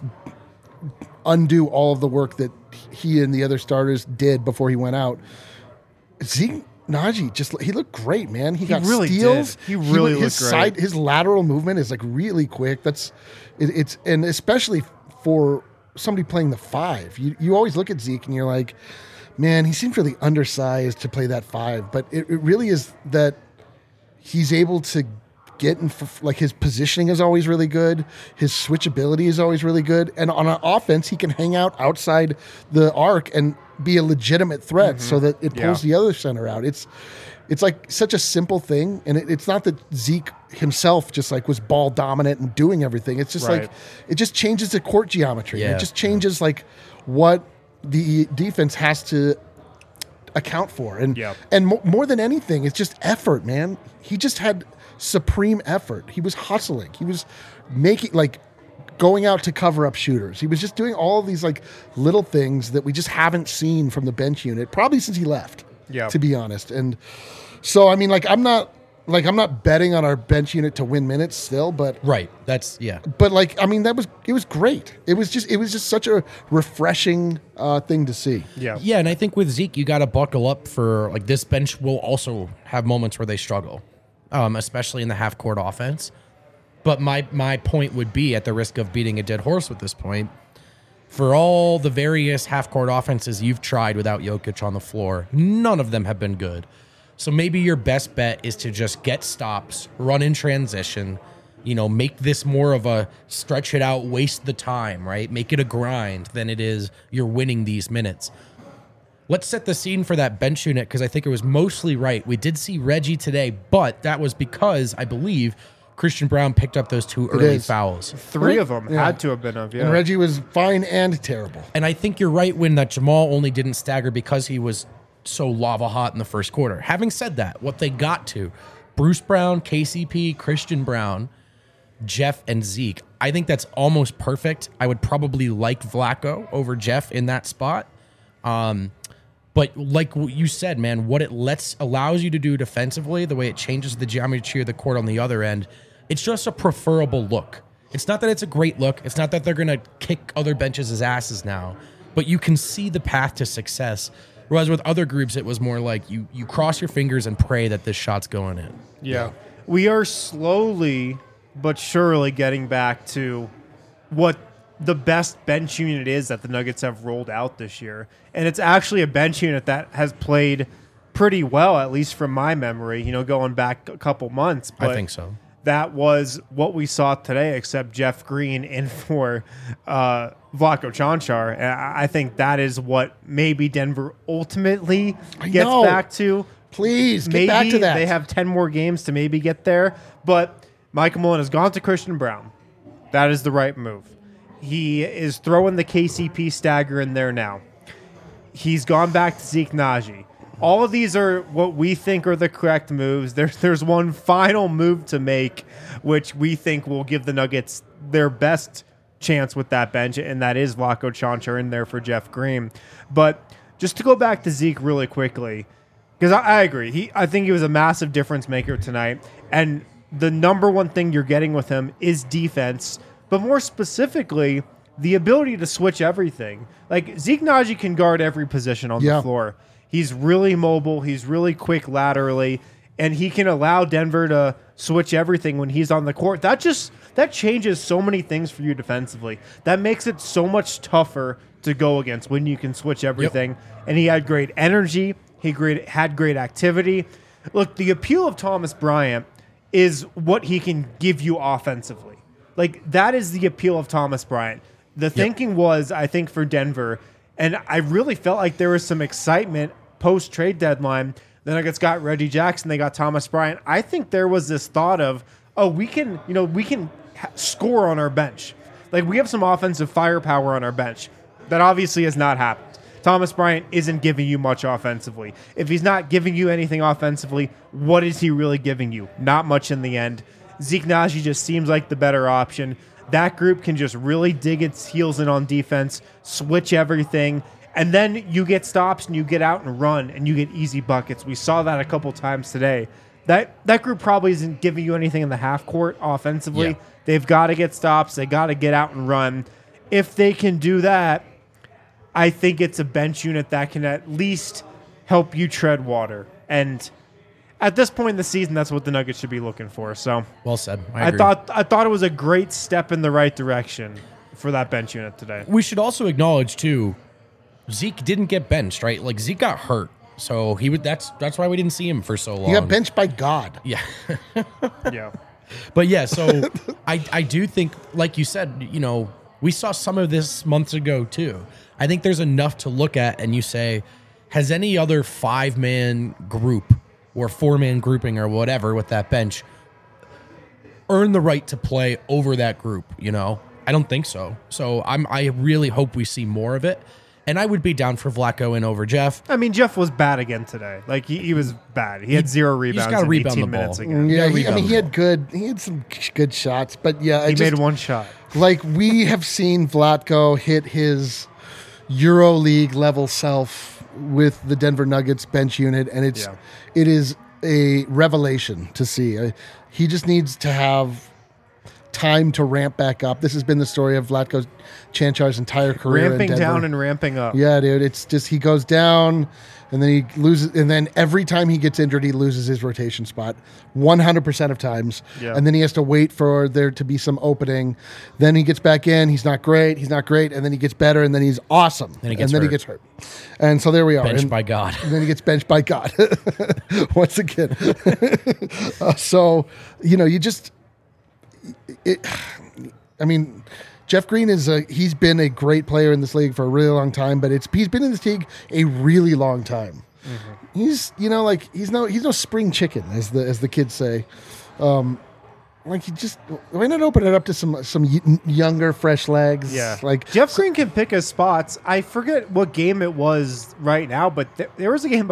undo all of the work that he and the other starters did before he went out. Zeke Naji he looked great, man. He got really steals. Did. He really looked great. His lateral movement is like really quick. It's and especially for somebody playing the 5. You always look at Zeke and you're like, man, he seems really undersized to play that 5. But it really is that he's able to get in, like his positioning is always really good. His switchability is always really good. And on an offense, he can hang out outside the arc and be a legitimate threat so that it pulls the other center out. It's like such a simple thing, and it's not that Zeke himself just like was ball dominant and doing everything. It's just like it just changes the court geometry. Yeah. It just changes like what the defense has to account for, and more than anything, it's just effort, man. He just had supreme effort. He was hustling. He was making like going out to cover up shooters. He was just doing all of these like little things that we just haven't seen from the bench unit probably since he left. Yeah, to be honest. And so I mean, I'm not betting on our bench unit to win minutes still, but But I mean, it was great. It was just such a refreshing thing to see. Yeah, and I think with Zeke, you got to buckle up for like this bench will also have moments where they struggle, especially in the half court offense. But my point would be, at the risk of beating a dead horse with this point, for all the various half court offenses you've tried without Jokic on the floor, none of them have been good. So maybe your best bet is to just get stops, run in transition, make this more of a stretch it out, waste the time, right? Make it a grind than it is you're winning these minutes. Let's set the scene for that bench unit, because I think it was mostly right. We did see Reggie today, but that was because I believe Christian Braun picked up those 2 early fouls. 3 of them had to have been of, And Reggie was fine and terrible. And I think you're right when that Jamal only didn't stagger because he was so lava hot in the first quarter. Having said that, what they got to, Bruce Brown, KCP, Christian Braun, Jeff, and Zeke, I think that's almost perfect. I would probably like Vlatko over Jeff in that spot. But like you said, man, what it allows you to do defensively, the way it changes the geometry of the court on the other end, it's just a preferable look. It's not that it's a great look. It's not that they're going to kick other benches' asses now, but you can see the path to success. Whereas with other groups, it was more like you cross your fingers and pray that this shot's going in. Yeah. We are slowly but surely getting back to what the best bench unit is that the Nuggets have rolled out this year. And it's actually a bench unit that has played pretty well, at least from my memory, going back a couple months. But I think so. That was what we saw today, except Jeff Green in for Vlatko Čančar. And I think that is what maybe Denver ultimately gets back to. Please, get back to that. They have 10 more games to maybe get there. But Michael Malone has gone to Christian Braun. That is the right move. He is throwing the KCP stagger in there now. He's gone back to Zeke Naji. All of these are what we think are the correct moves. There's one final move to make, which we think will give the Nuggets their best chance with that bench, and that is Vlatko Čančar in there for Jeff Green. But just to go back to Zeke really quickly, because I agree. I think he was a massive difference maker tonight, and the number one thing you're getting with him is defense, but more specifically, the ability to switch everything. Like, Zeke Naji can guard every position on the floor. He's really mobile. He's really quick laterally, and he can allow Denver to switch everything when he's on the court. That changes so many things for you defensively. That makes it so much tougher to go against when you can switch everything. Yep. And he had great energy. He had great activity. Look, the appeal of Thomas Bryant is what he can give you offensively. Like, that is the appeal of Thomas Bryant. The thinking was, I think, for Denver, and I really felt like there was some excitement post-trade deadline. The Nuggets got Reggie Jackson. They got Thomas Bryant. I think there was this thought of, we can score on our bench. Like, we have some offensive firepower on our bench. That obviously has not happened. Thomas Bryant isn't giving you much offensively. If he's not giving you anything offensively, what is he really giving you? Not much in the end. Zeke Naji just seems like the better option. That group can just really dig its heels in on defense, switch everything, and then you get stops and you get out and run and you get easy buckets. We saw that a couple times today. That group probably isn't giving you anything in the half court offensively. Yeah. They've got to get stops. They got to get out and run. If they can do that, I think it's a bench unit that can at least help you tread water. And at this point in the season, that's what the Nuggets should be looking for. So well said. I agree. I thought it was a great step in the right direction for that bench unit today. We should also acknowledge too, Zeke didn't get benched, right? Like, Zeke got hurt, so he would. That's why we didn't see him for so long. He got benched by God. Yeah. Yeah. But yeah, so I do think, like you said, we saw some of this months ago too. I think there's enough to look at and you say, has any other 5-man group or 4-man grouping or whatever with that bench earned the right to play over that group? You know, I don't think so. So I really hope we see more of it. And I would be down for Vlatko in over Jeff. I mean, Jeff was bad again today. Like he was bad. He had 0 rebounds gotta in rebound 18 the minutes ball. again. Yeah, he had some good shots, but yeah, He made one shot. Like we have seen Vlatko hit his EuroLeague level self with the Denver Nuggets bench unit, and it is a revelation to see. He just needs to have time to ramp back up. This has been the story of Vlatko Čančar's entire career. Ramping in Denver. down and ramping up. Yeah, dude. It's just he goes down and then he loses, and then every time he gets injured, he loses his rotation spot 100% of times. Yeah. And then he has to wait for there to be some opening. Then he gets back in. He's not great. And then he gets better, and then he's awesome. Then he gets he hurt. git's hurt. And so there we are. Benched by God. And then he gets benched by God once again. So, you know, you just. I mean, Jeff Green he's been a great player in this league for a really long time, but he's been in this league a really long time. Mm-hmm. He's he's no spring chicken, as the kids say. Why not open it up to some younger, fresh legs? Yeah, like Jeff Green can pick his spots. I forget what game it was right now, but there was a game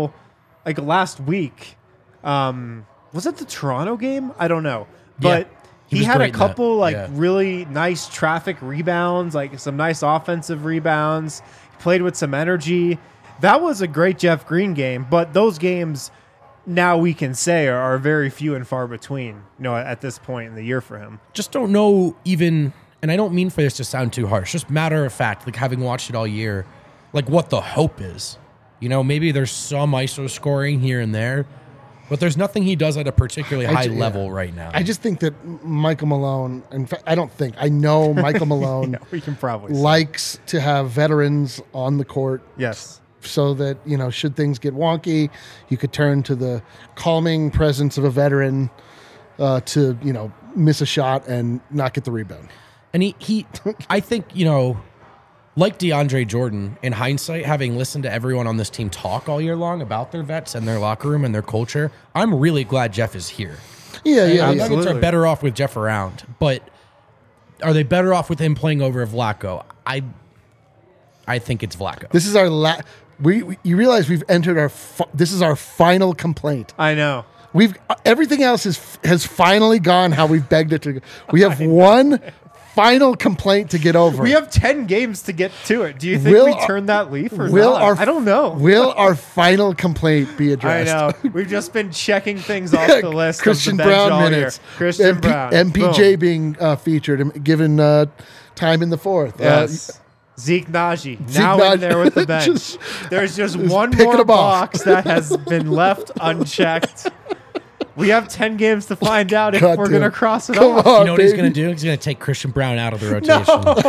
last week. Was it the Toronto game? I don't know, but. Yeah. He had a couple Yeah. really nice traffic rebounds, like some nice offensive rebounds. He played with some energy. That was a great Jeff Green game, but those games now we can say are very few and far between, at this point in the year for him. Just don't know even, and I don't mean for this to sound too harsh, just matter of fact, like having watched it all year, like what the hope is. Maybe there's some ISO scoring here and there, but there's nothing he does at a particularly high level right now. I just think that Michael Malone, in fact, I know Michael Malone we can probably likes to have veterans on the court. Yes. So that, should things get wonky, you could turn to the calming presence of a veteran to, miss a shot and not get the rebound. And he I think, like DeAndre Jordan, in hindsight, having listened to everyone on this team talk all year long about their vets and their locker room and their culture, I'm really glad Jeff is here. Yeah. Nuggets are better off with Jeff around, but are they better off with him playing over Vlatko? I think it's Vlatko. This is our you realize we've entered this is our final complaint. I know. Everything else has finally gone how we've begged it to. We have one final complaint to get over. We have 10 games to get to it. Do you think we turn that leaf or not? I don't know. Will our final complaint be addressed? I know. We've just been checking things off the list. Christian of the bench Brown all minutes. Year. Christian Brown. MPJ Boom. being featured and given time in the fourth. Yes. Zeke Naji now in there with the bench. There's just one more box that has been left unchecked. We have 10 games to find out if we're going to cross it off. You know what he's going to do? He's going to take Christian Brown out of the rotation.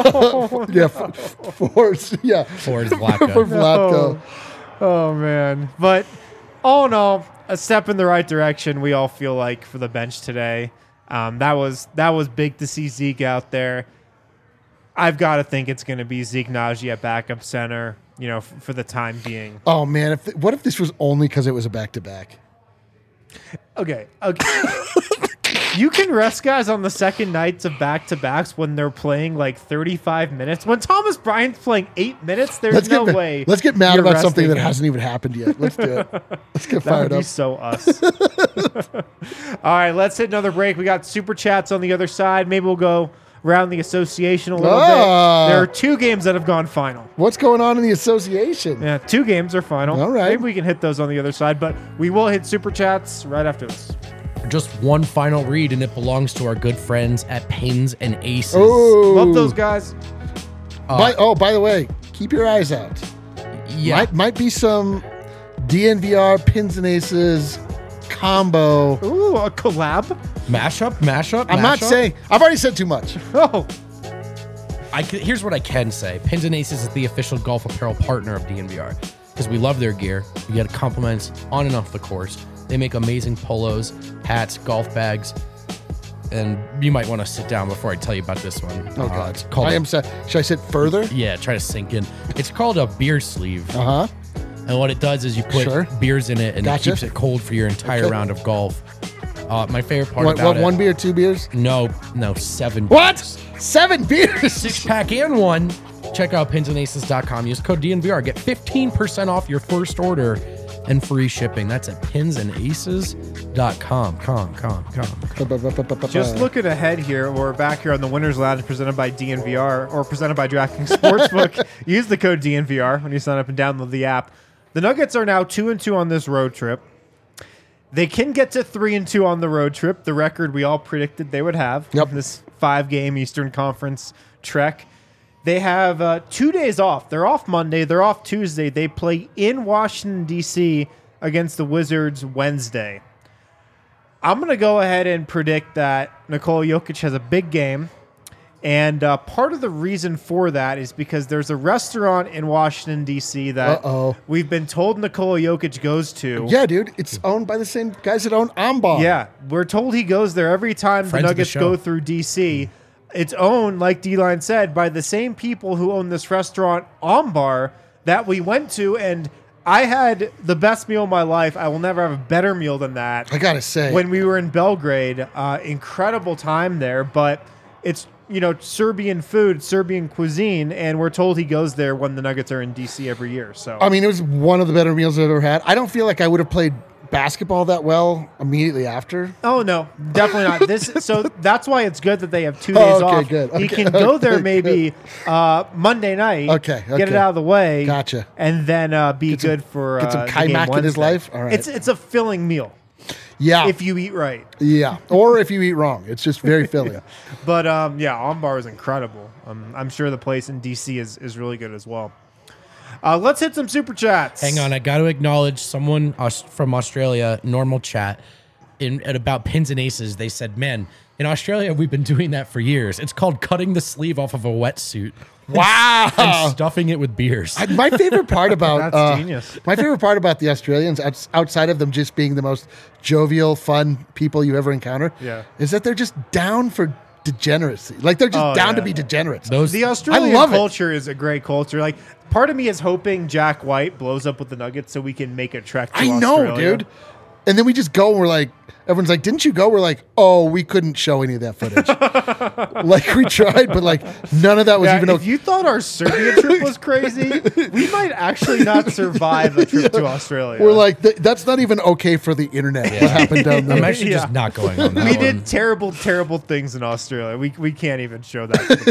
For Vlatko. Oh, man. But all in all, a step in the right direction, we all feel like, for the bench today. That was big to see Zeke out there. I've got to think it's going to be Zeke Naji at backup center, for the time being. Oh, man. What if this was only because it was a back-to-back? Okay. You can rest guys on the second nights of back-to-backs when they're playing like 35 minutes. When Thomas Bryant's playing 8 minutes, there's no way. Let's get mad about something that hasn't even happened yet. Let's do it. Let's get fired up. That would be so us. All right, let's hit another break. We got super chats on the other side. Maybe we'll go around the association a little bit. There are 2 games that have gone final. What's going on in the association? Yeah, 2 games are final. All right. Maybe we can hit those on the other side, but we will hit super chats right after this. Just one final read, and it belongs to our good friends at Pins and Aces. Oh. Love those guys. By the way, keep your eyes out. Yeah. Might be some DNVR Pins and Aces combo. Ooh, a collab? Mashup? I'm not saying. I've already said too much. Oh. Here's what I can say. Pins and Aces is the official golf apparel partner of DNVR because we love their gear. We get compliments on and off the course. They make amazing polos, hats, golf bags. and you might want to sit down before I tell you about this one. Oh God, It's called I am sad. Should I sit further? yeah, try to sink in. It's called a beer sleeve. Uh huh. And what it does is you put Sure. beers in it, and Gotcha. it keeps it cold for your entire Okay. round of golf. My favorite part What? about it. One beer, 2 beers? No, 7. What? 7 beers? 6-pack and 1. Check out pinsandaces.com. Use code DNVR. Get 15% off your first order and free shipping. That's at pinsandaces.com. Just looking ahead here, we're back here on the Winners Lounge presented by DNVR or presented by DraftKings Sportsbook. Use the code DNVR when you sign up and download the app. The Nuggets are now 2-2 on this road trip. They can get to 3-2 on the road trip, the record we all predicted they would have. Yep. This 5-game Eastern Conference trek. They have 2 days off. They're off Monday. They're off Tuesday. They play in Washington, D.C. against the Wizards Wednesday. I'm going to go ahead and predict that Nikola Jokic has a big game. And part of the reason for that is because there's a restaurant in Washington, D.C. that we've been told Nikola Jokic goes to. Yeah, dude. It's owned by the same guys that own Ambar. Yeah, we're told he goes there every time Friends the of the Nuggets show. go through D.C. It's owned, like D-Line said, by the same people who own this restaurant, Ambar, that we went to. And I had the best meal of my life. I will never have a better meal than that. I got to say. When we were in Belgrade, incredible time there. But it's, Serbian food, Serbian cuisine. And we're told he goes there when the Nuggets are in D.C. every year. So I mean, it was one of the better meals I've ever had. I don't feel like I would have played basketball that well immediately after. Oh no, definitely not. So that's why it's good that they have 2 days okay, off. good. He Okay, can go there okay, maybe Monday night. Okay, Get it okay. out of the way. Gotcha. And then be good for get some the game Kaimak in his Wednesday. life? All right. It's a filling meal Yeah. if you eat right. Yeah. Or if you eat wrong. It's just very filling. But Ambar is incredible. I'm sure the place in DC is really good as well. Let's hit some super chats. Hang on, I got to acknowledge someone from Australia, normal chat, at about pins and aces. They said, man, in Australia, we've been doing that for years. It's called cutting the sleeve off of a wetsuit. Wow. And stuffing it with beers. My favorite part about That's genius. My favorite part about the Australians, outside of them just being the most jovial, fun people you ever encounter, is that they're just down for degeneracy. Like they're just down to be degenerates. The Australian love it. culture is a great culture. Like, part of me is hoping Jack White blows up with the Nuggets so we can make a trek to I know, Australia. dude. And then we just go and we're like, everyone's like, didn't you go? We're like, oh, we couldn't show any of that footage. Like we tried, but like none of that was even if you thought our Serbia trip was crazy, we might actually not survive a trip to Australia. We're like, that's not even okay for the internet. What happened down there? I'm actually just not going on that we one. did terrible, terrible things in Australia. We can't even show that to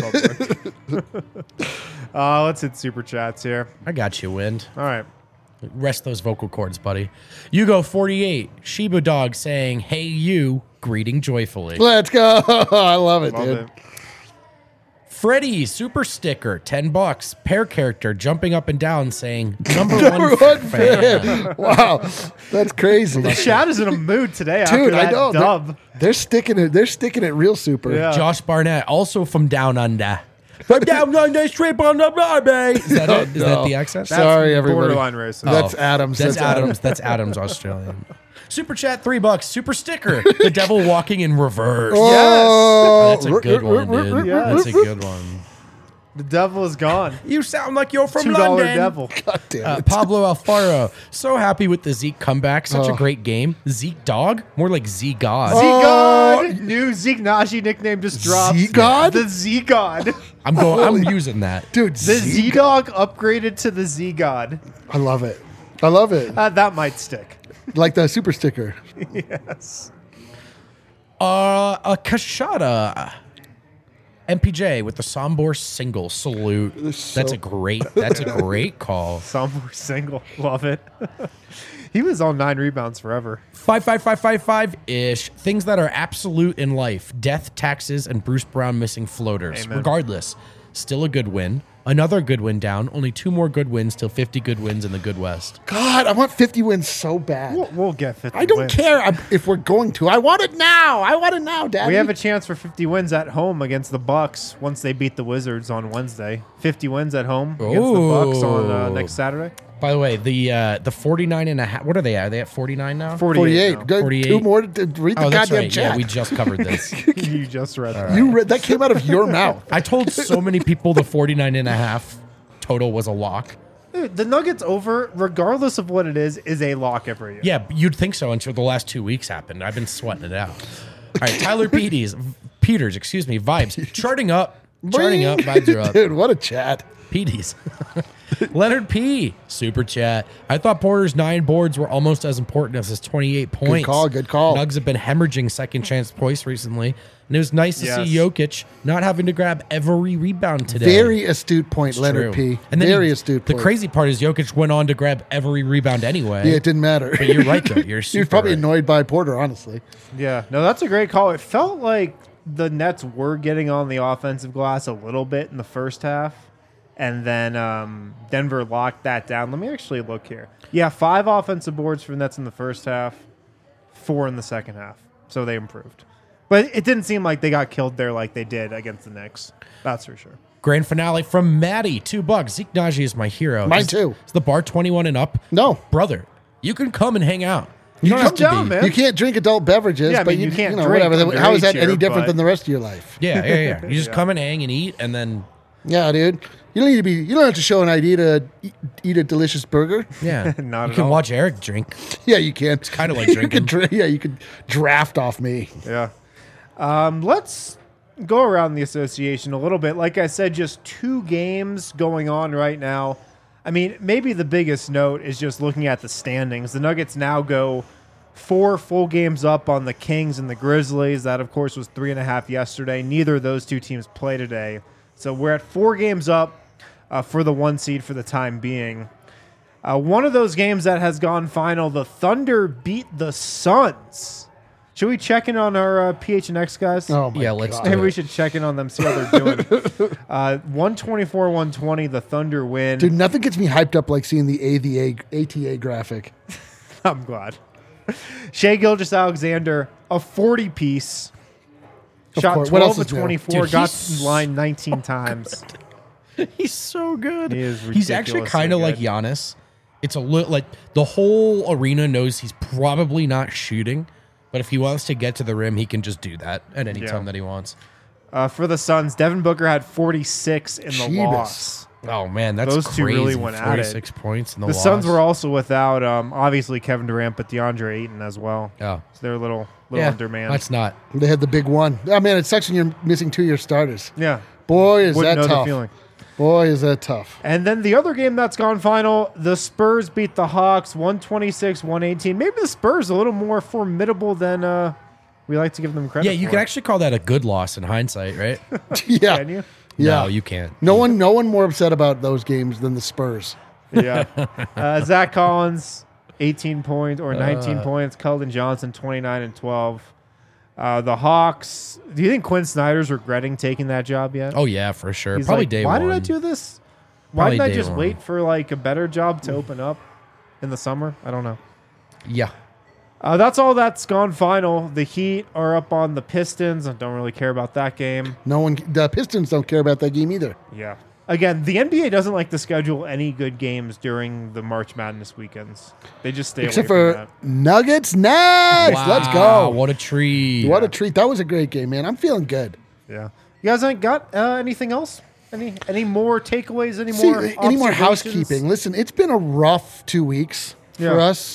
the public. Let's hit super chats here. I got you, Wind. All right. Rest those vocal cords, buddy. Yugo 48, Shiba Dog saying, hey, you, greeting joyfully. Let's go. I love it, Love dude. it. Freddie, super sticker, $10. Pair character jumping up and down saying, number Number one one fan. fan. Wow. That's crazy. The chat is in a mood today after Dude, that I know. dub. They're sticking it. They're sticking it real super. Yeah. Josh Barnett, also from Down Under. From Down Under, straight on the baby. Is that it? Is that the accent? That's Sorry, everybody. borderline racist. That's Adams. That's Adams. That's Adams, Australian. Super chat, $3. Super sticker, the devil walking in reverse. Oh, That's a good one, dude. Yes. That's a good one. The devil is gone. You sound like you're from $2 London. devil. God damn it. Pablo Alfaro, so happy with the Zeke comeback. Such a great game. Zeke Dog, more like Z God. Z-God! New Zeke Naji nickname just dropped. Z-God? The Z-God. I'm using that. Dude, The Z-Dog upgraded to the Z-God. I love it. I love it. That might stick. Like the super sticker. Yes. A Kashada. MPJ with the Sombor single salute. That's a great call. Somewhere single. Love it. He was on 9 rebounds forever. 55555-ish. Things that are absolute in life. Death, taxes, and Bruce Brown missing floaters. Amen. Regardless, still a good win. Another good win down. Only 2 more good wins till 50 good wins in the Good West. God, I want 50 wins so bad. We'll get 50 I don't wins. care if we're going to. I want it now. I want it now, Daddy. We have a chance for 50 wins at home against the Bucks once they beat the Wizards on Wednesday. 50 wins at home against the Bucks on next Saturday. By the way, the 49 and a half. What are they at? Are they at 49 now? 48. now. Good. 48. Two more to read the Oh, that's goddamn right. chat. Yeah, we just covered this. You just read that. You read that came out of your mouth. I told so many people the 49 and a half total was a lock. Dude, the Nuggets over, regardless of what it is a lock every year. Yeah, you'd think so until the last 2 weeks happened. I've been sweating it out. All right, Tyler Peters, vibes. Charting up, vibes are up. Dude, what a chat. Petey's. Leonard P. Super chat. I thought Porter's 9 boards were almost as important as his 28 points. Good call. Nugs have been hemorrhaging second chance points recently. And it was nice to see Jokic not having to grab every rebound today. Very astute point, It's Leonard true. P. And then Very astute The point. crazy part is Jokic went on to grab every rebound anyway. Yeah, it didn't matter. But you're right, though. You're He super was probably right. annoyed by Porter, honestly. Yeah. No, that's a great call. It felt like the Nets were getting on the offensive glass a little bit in the first half. And then Denver locked that down. Let me actually look here. Yeah, 5 offensive boards for the Nets in the first half, 4 in the second half. So they improved. But it didn't seem like they got killed there like they did against the Knicks. That's for sure. Grand finale from Maddie, $2. Zeke Naji is my hero. Mine too. Is the bar 21 and up? No. Brother, you can come and hang out. You don't come have to down, be. man. You can't drink adult beverages, Yeah, I but mean, you can't know, drink whatever. How is that underage any here, different but- than the rest of your life? Yeah. You just come and hang and eat, and then Yeah, dude. You don't need to be. You don't have to show an ID to eat a delicious burger. yeah, Not you at can all. watch Eric drink. Yeah, you can. It's kinda like you drinking. could you could draft off me. Yeah. Let's go around the association a little bit. Like I said, just 2 games going on right now. I mean, maybe the biggest note is just looking at the standings. The Nuggets now go 4 full games up on the Kings and the Grizzlies. That, of course, was 3.5 yesterday. Neither of those 2 teams play today. So we're at 4 games up for the 1 seed for the time being. One of those games that has gone final, the Thunder beat the Suns. Should we check in on our PHNX guys? Oh my Yeah, let's God. do Maybe it. we should check in on them, see how they're doing. 124-120, the Thunder win. Dude, nothing gets me hyped up like seeing the ATA graphic. I'm glad. Shea Gilgeous-Alexander, a 40-piece. Of Shot course. What 12 else of is new? 24, Dude, got he's in line 19 times. He's so good. He is He's actually ridiculously kind of like good. Giannis. It's a little like the whole arena knows he's probably not shooting, but if he wants to get to the rim, he can just do that at any time that he wants. For the Suns, Devin Booker had 46 in the Jeebus. loss. Oh man, that's Those two crazy. really went at it. 46 points in the The loss. Suns were also without, obviously, Kevin Durant, but DeAndre Ayton as well. Oh. So they're a little Yeah, undermanned. that's not. They had the big one. I mean, it sucks when you're missing 2 of your starters. Yeah. Boy, is Wouldn't that know the tough. feeling. Boy, is that tough. And then the other game that's gone final, the Spurs beat the Hawks 126-118. Maybe the Spurs a little more formidable than we like to give them credit Yeah, you for. can actually call that a good loss in hindsight, right? Yeah. Can you? Yeah. No, you can't. No one more upset about those games than the Spurs. Yeah. Zach Collins, 18 points or 19 points. Keldon Johnson, 29 and 12. The Hawks, do you think Quinn Snyder's regretting taking that job yet? Oh yeah, for sure. He's Probably like, day why one. did I do this? Why Probably didn't I day just one. wait for like a better job to open up in the summer? I don't know. Yeah. That's all that's gone final. The Heat are up on the Pistons. I don't really care about that game. The Pistons don't care about that game either. Yeah. Again, the NBA doesn't like to schedule any good games during the March Madness weekends. They just stay Except away for from that. Nuggets Nets. Let's go. What a treat. What a treat. That was a great game, man. I'm feeling good. Yeah. You guys ain't got anything else? Any more takeaways? Any See, more any more observations? housekeeping? Listen, it's been a rough 2 weeks Yeah. for us.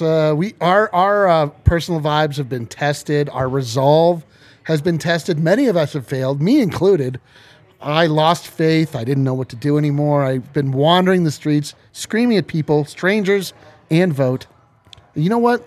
Our personal vibes have been tested. Our resolve has been tested. Many of us have failed, me included. I lost faith. I didn't know what to do anymore. I've been wandering the streets, screaming at people, strangers, and vote. You know what?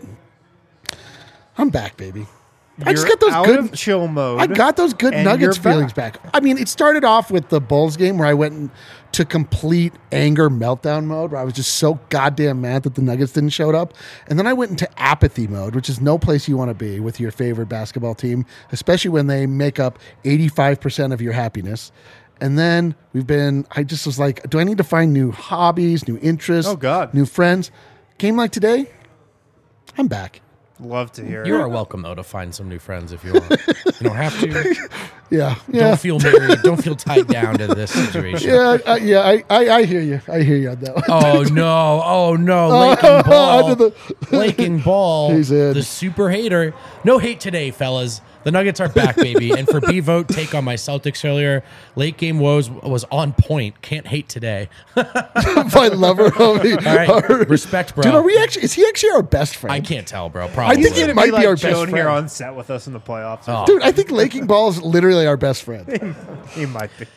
I'm back, baby. I just You're got those out good of chill mode. I got those good and Nuggets you're feelings back. I mean, it started off with the Bulls game where I went to complete anger meltdown mode, where I was just so goddamn mad that the Nuggets didn't show up. And then I went into apathy mode, which is no place you want to be with your favorite basketball team, especially when they make up 85% of your happiness. And then I just was like, do I need to find new hobbies, new interests? Oh, God. New friends? Game like today, I'm back. Love to hear it. You are welcome though to find some new friends if you want. You don't have to. Yeah. Don't feel married. Don't feel tied down to this situation. I hear you. I hear you on that one. Oh no, Laking Ball. Under Laking Ball. He's in. The super hater. No hate today, fellas. The Nuggets are back, baby. And for B-Vote, take on my Celtics earlier. Late game was on point. Can't hate today. My lover, homie. All right. Respect, bro. Dude, is he actually our best friend? I can't tell, bro. Probably. I think he might be our best Joan here friend. on set with us in the playoffs. Oh. Dude, I think Laking Ball is literally our best friend. He might be.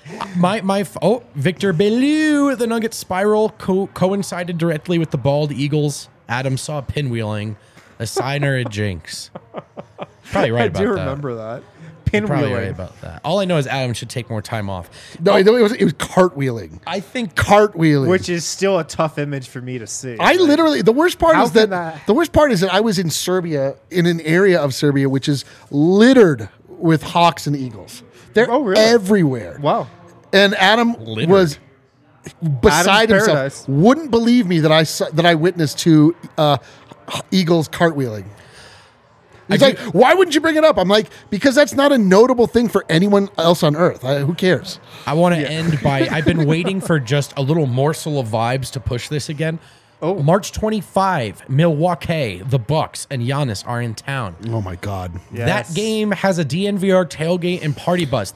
Victor Bellew. The Nuggets spiral coincided directly with the bald Eagles. Adam saw pinwheeling, a sign or a jinx. Probably right about that. I do remember that. Probably right Pinwheeling. about that. All I know is Adam should take more time off. No, it was cartwheeling. I think Cartwheeling. Which is still a tough image for me to see. I literally, the worst part How is that can that- the worst part is that I was in Serbia, in an area of Serbia which is littered with hawks and eagles. They're Oh, really? everywhere. Wow. And Adam Littered. was beside Adam's himself. paradise. Wouldn't believe me that I witnessed two eagles cartwheeling. He's like, why wouldn't you bring it up? I'm like, because that's not a notable thing for anyone else on Earth. Who cares? I want to end by I've been waiting for just a little morsel of vibes to push this again. Oh. March 25, Milwaukee, the Bucks, and Giannis are in town. Oh my God. Yes. That game has a DNVR tailgate and party bus.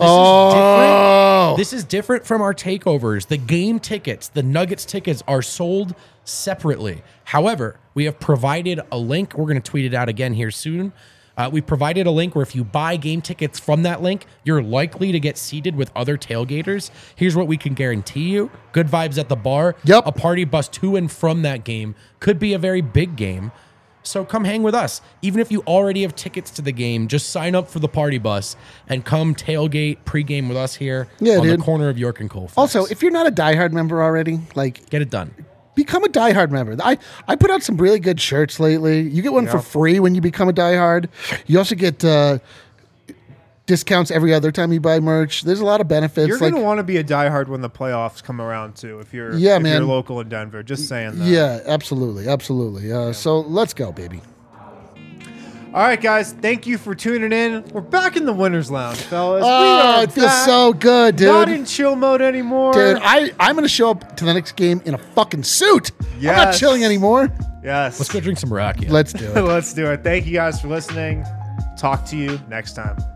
This is different from our takeovers. The game tickets, the Nuggets tickets, are sold separately. However, we have provided a link. We're going to tweet it out again here soon. We provided a link where if you buy game tickets from that link, you're likely to get seated with other tailgaters. Here's what we can guarantee you. Good vibes at the bar. Yep. A party bus to and from that game. Could be a very big game. So come hang with us. Even if you already have tickets to the game, just sign up for the party bus and come tailgate pregame with us here on the corner of York and Colfax. Also, if you're not a diehard member already, like, get it done. become a diehard member. I put out some really good shirts lately. You get one for free when you become a diehard. You also get discounts every other time you buy merch. There's a lot of benefits. You're going to want to be a diehard when the playoffs come around, too, if you're man. local in Denver. Just saying that. Yeah, absolutely. So let's go, baby. All right, guys. Thank you for tuning in. We're back in the Winner's Lounge, fellas. Oh, it feels so good, dude. Not in chill mode anymore. Dude, I'm going to show up to the next game in a fucking suit. I'm not Yes. chilling anymore. Yes. Let's go drink some rakia. Let's do it. Let's do it. Thank you guys for listening. Talk to you next time.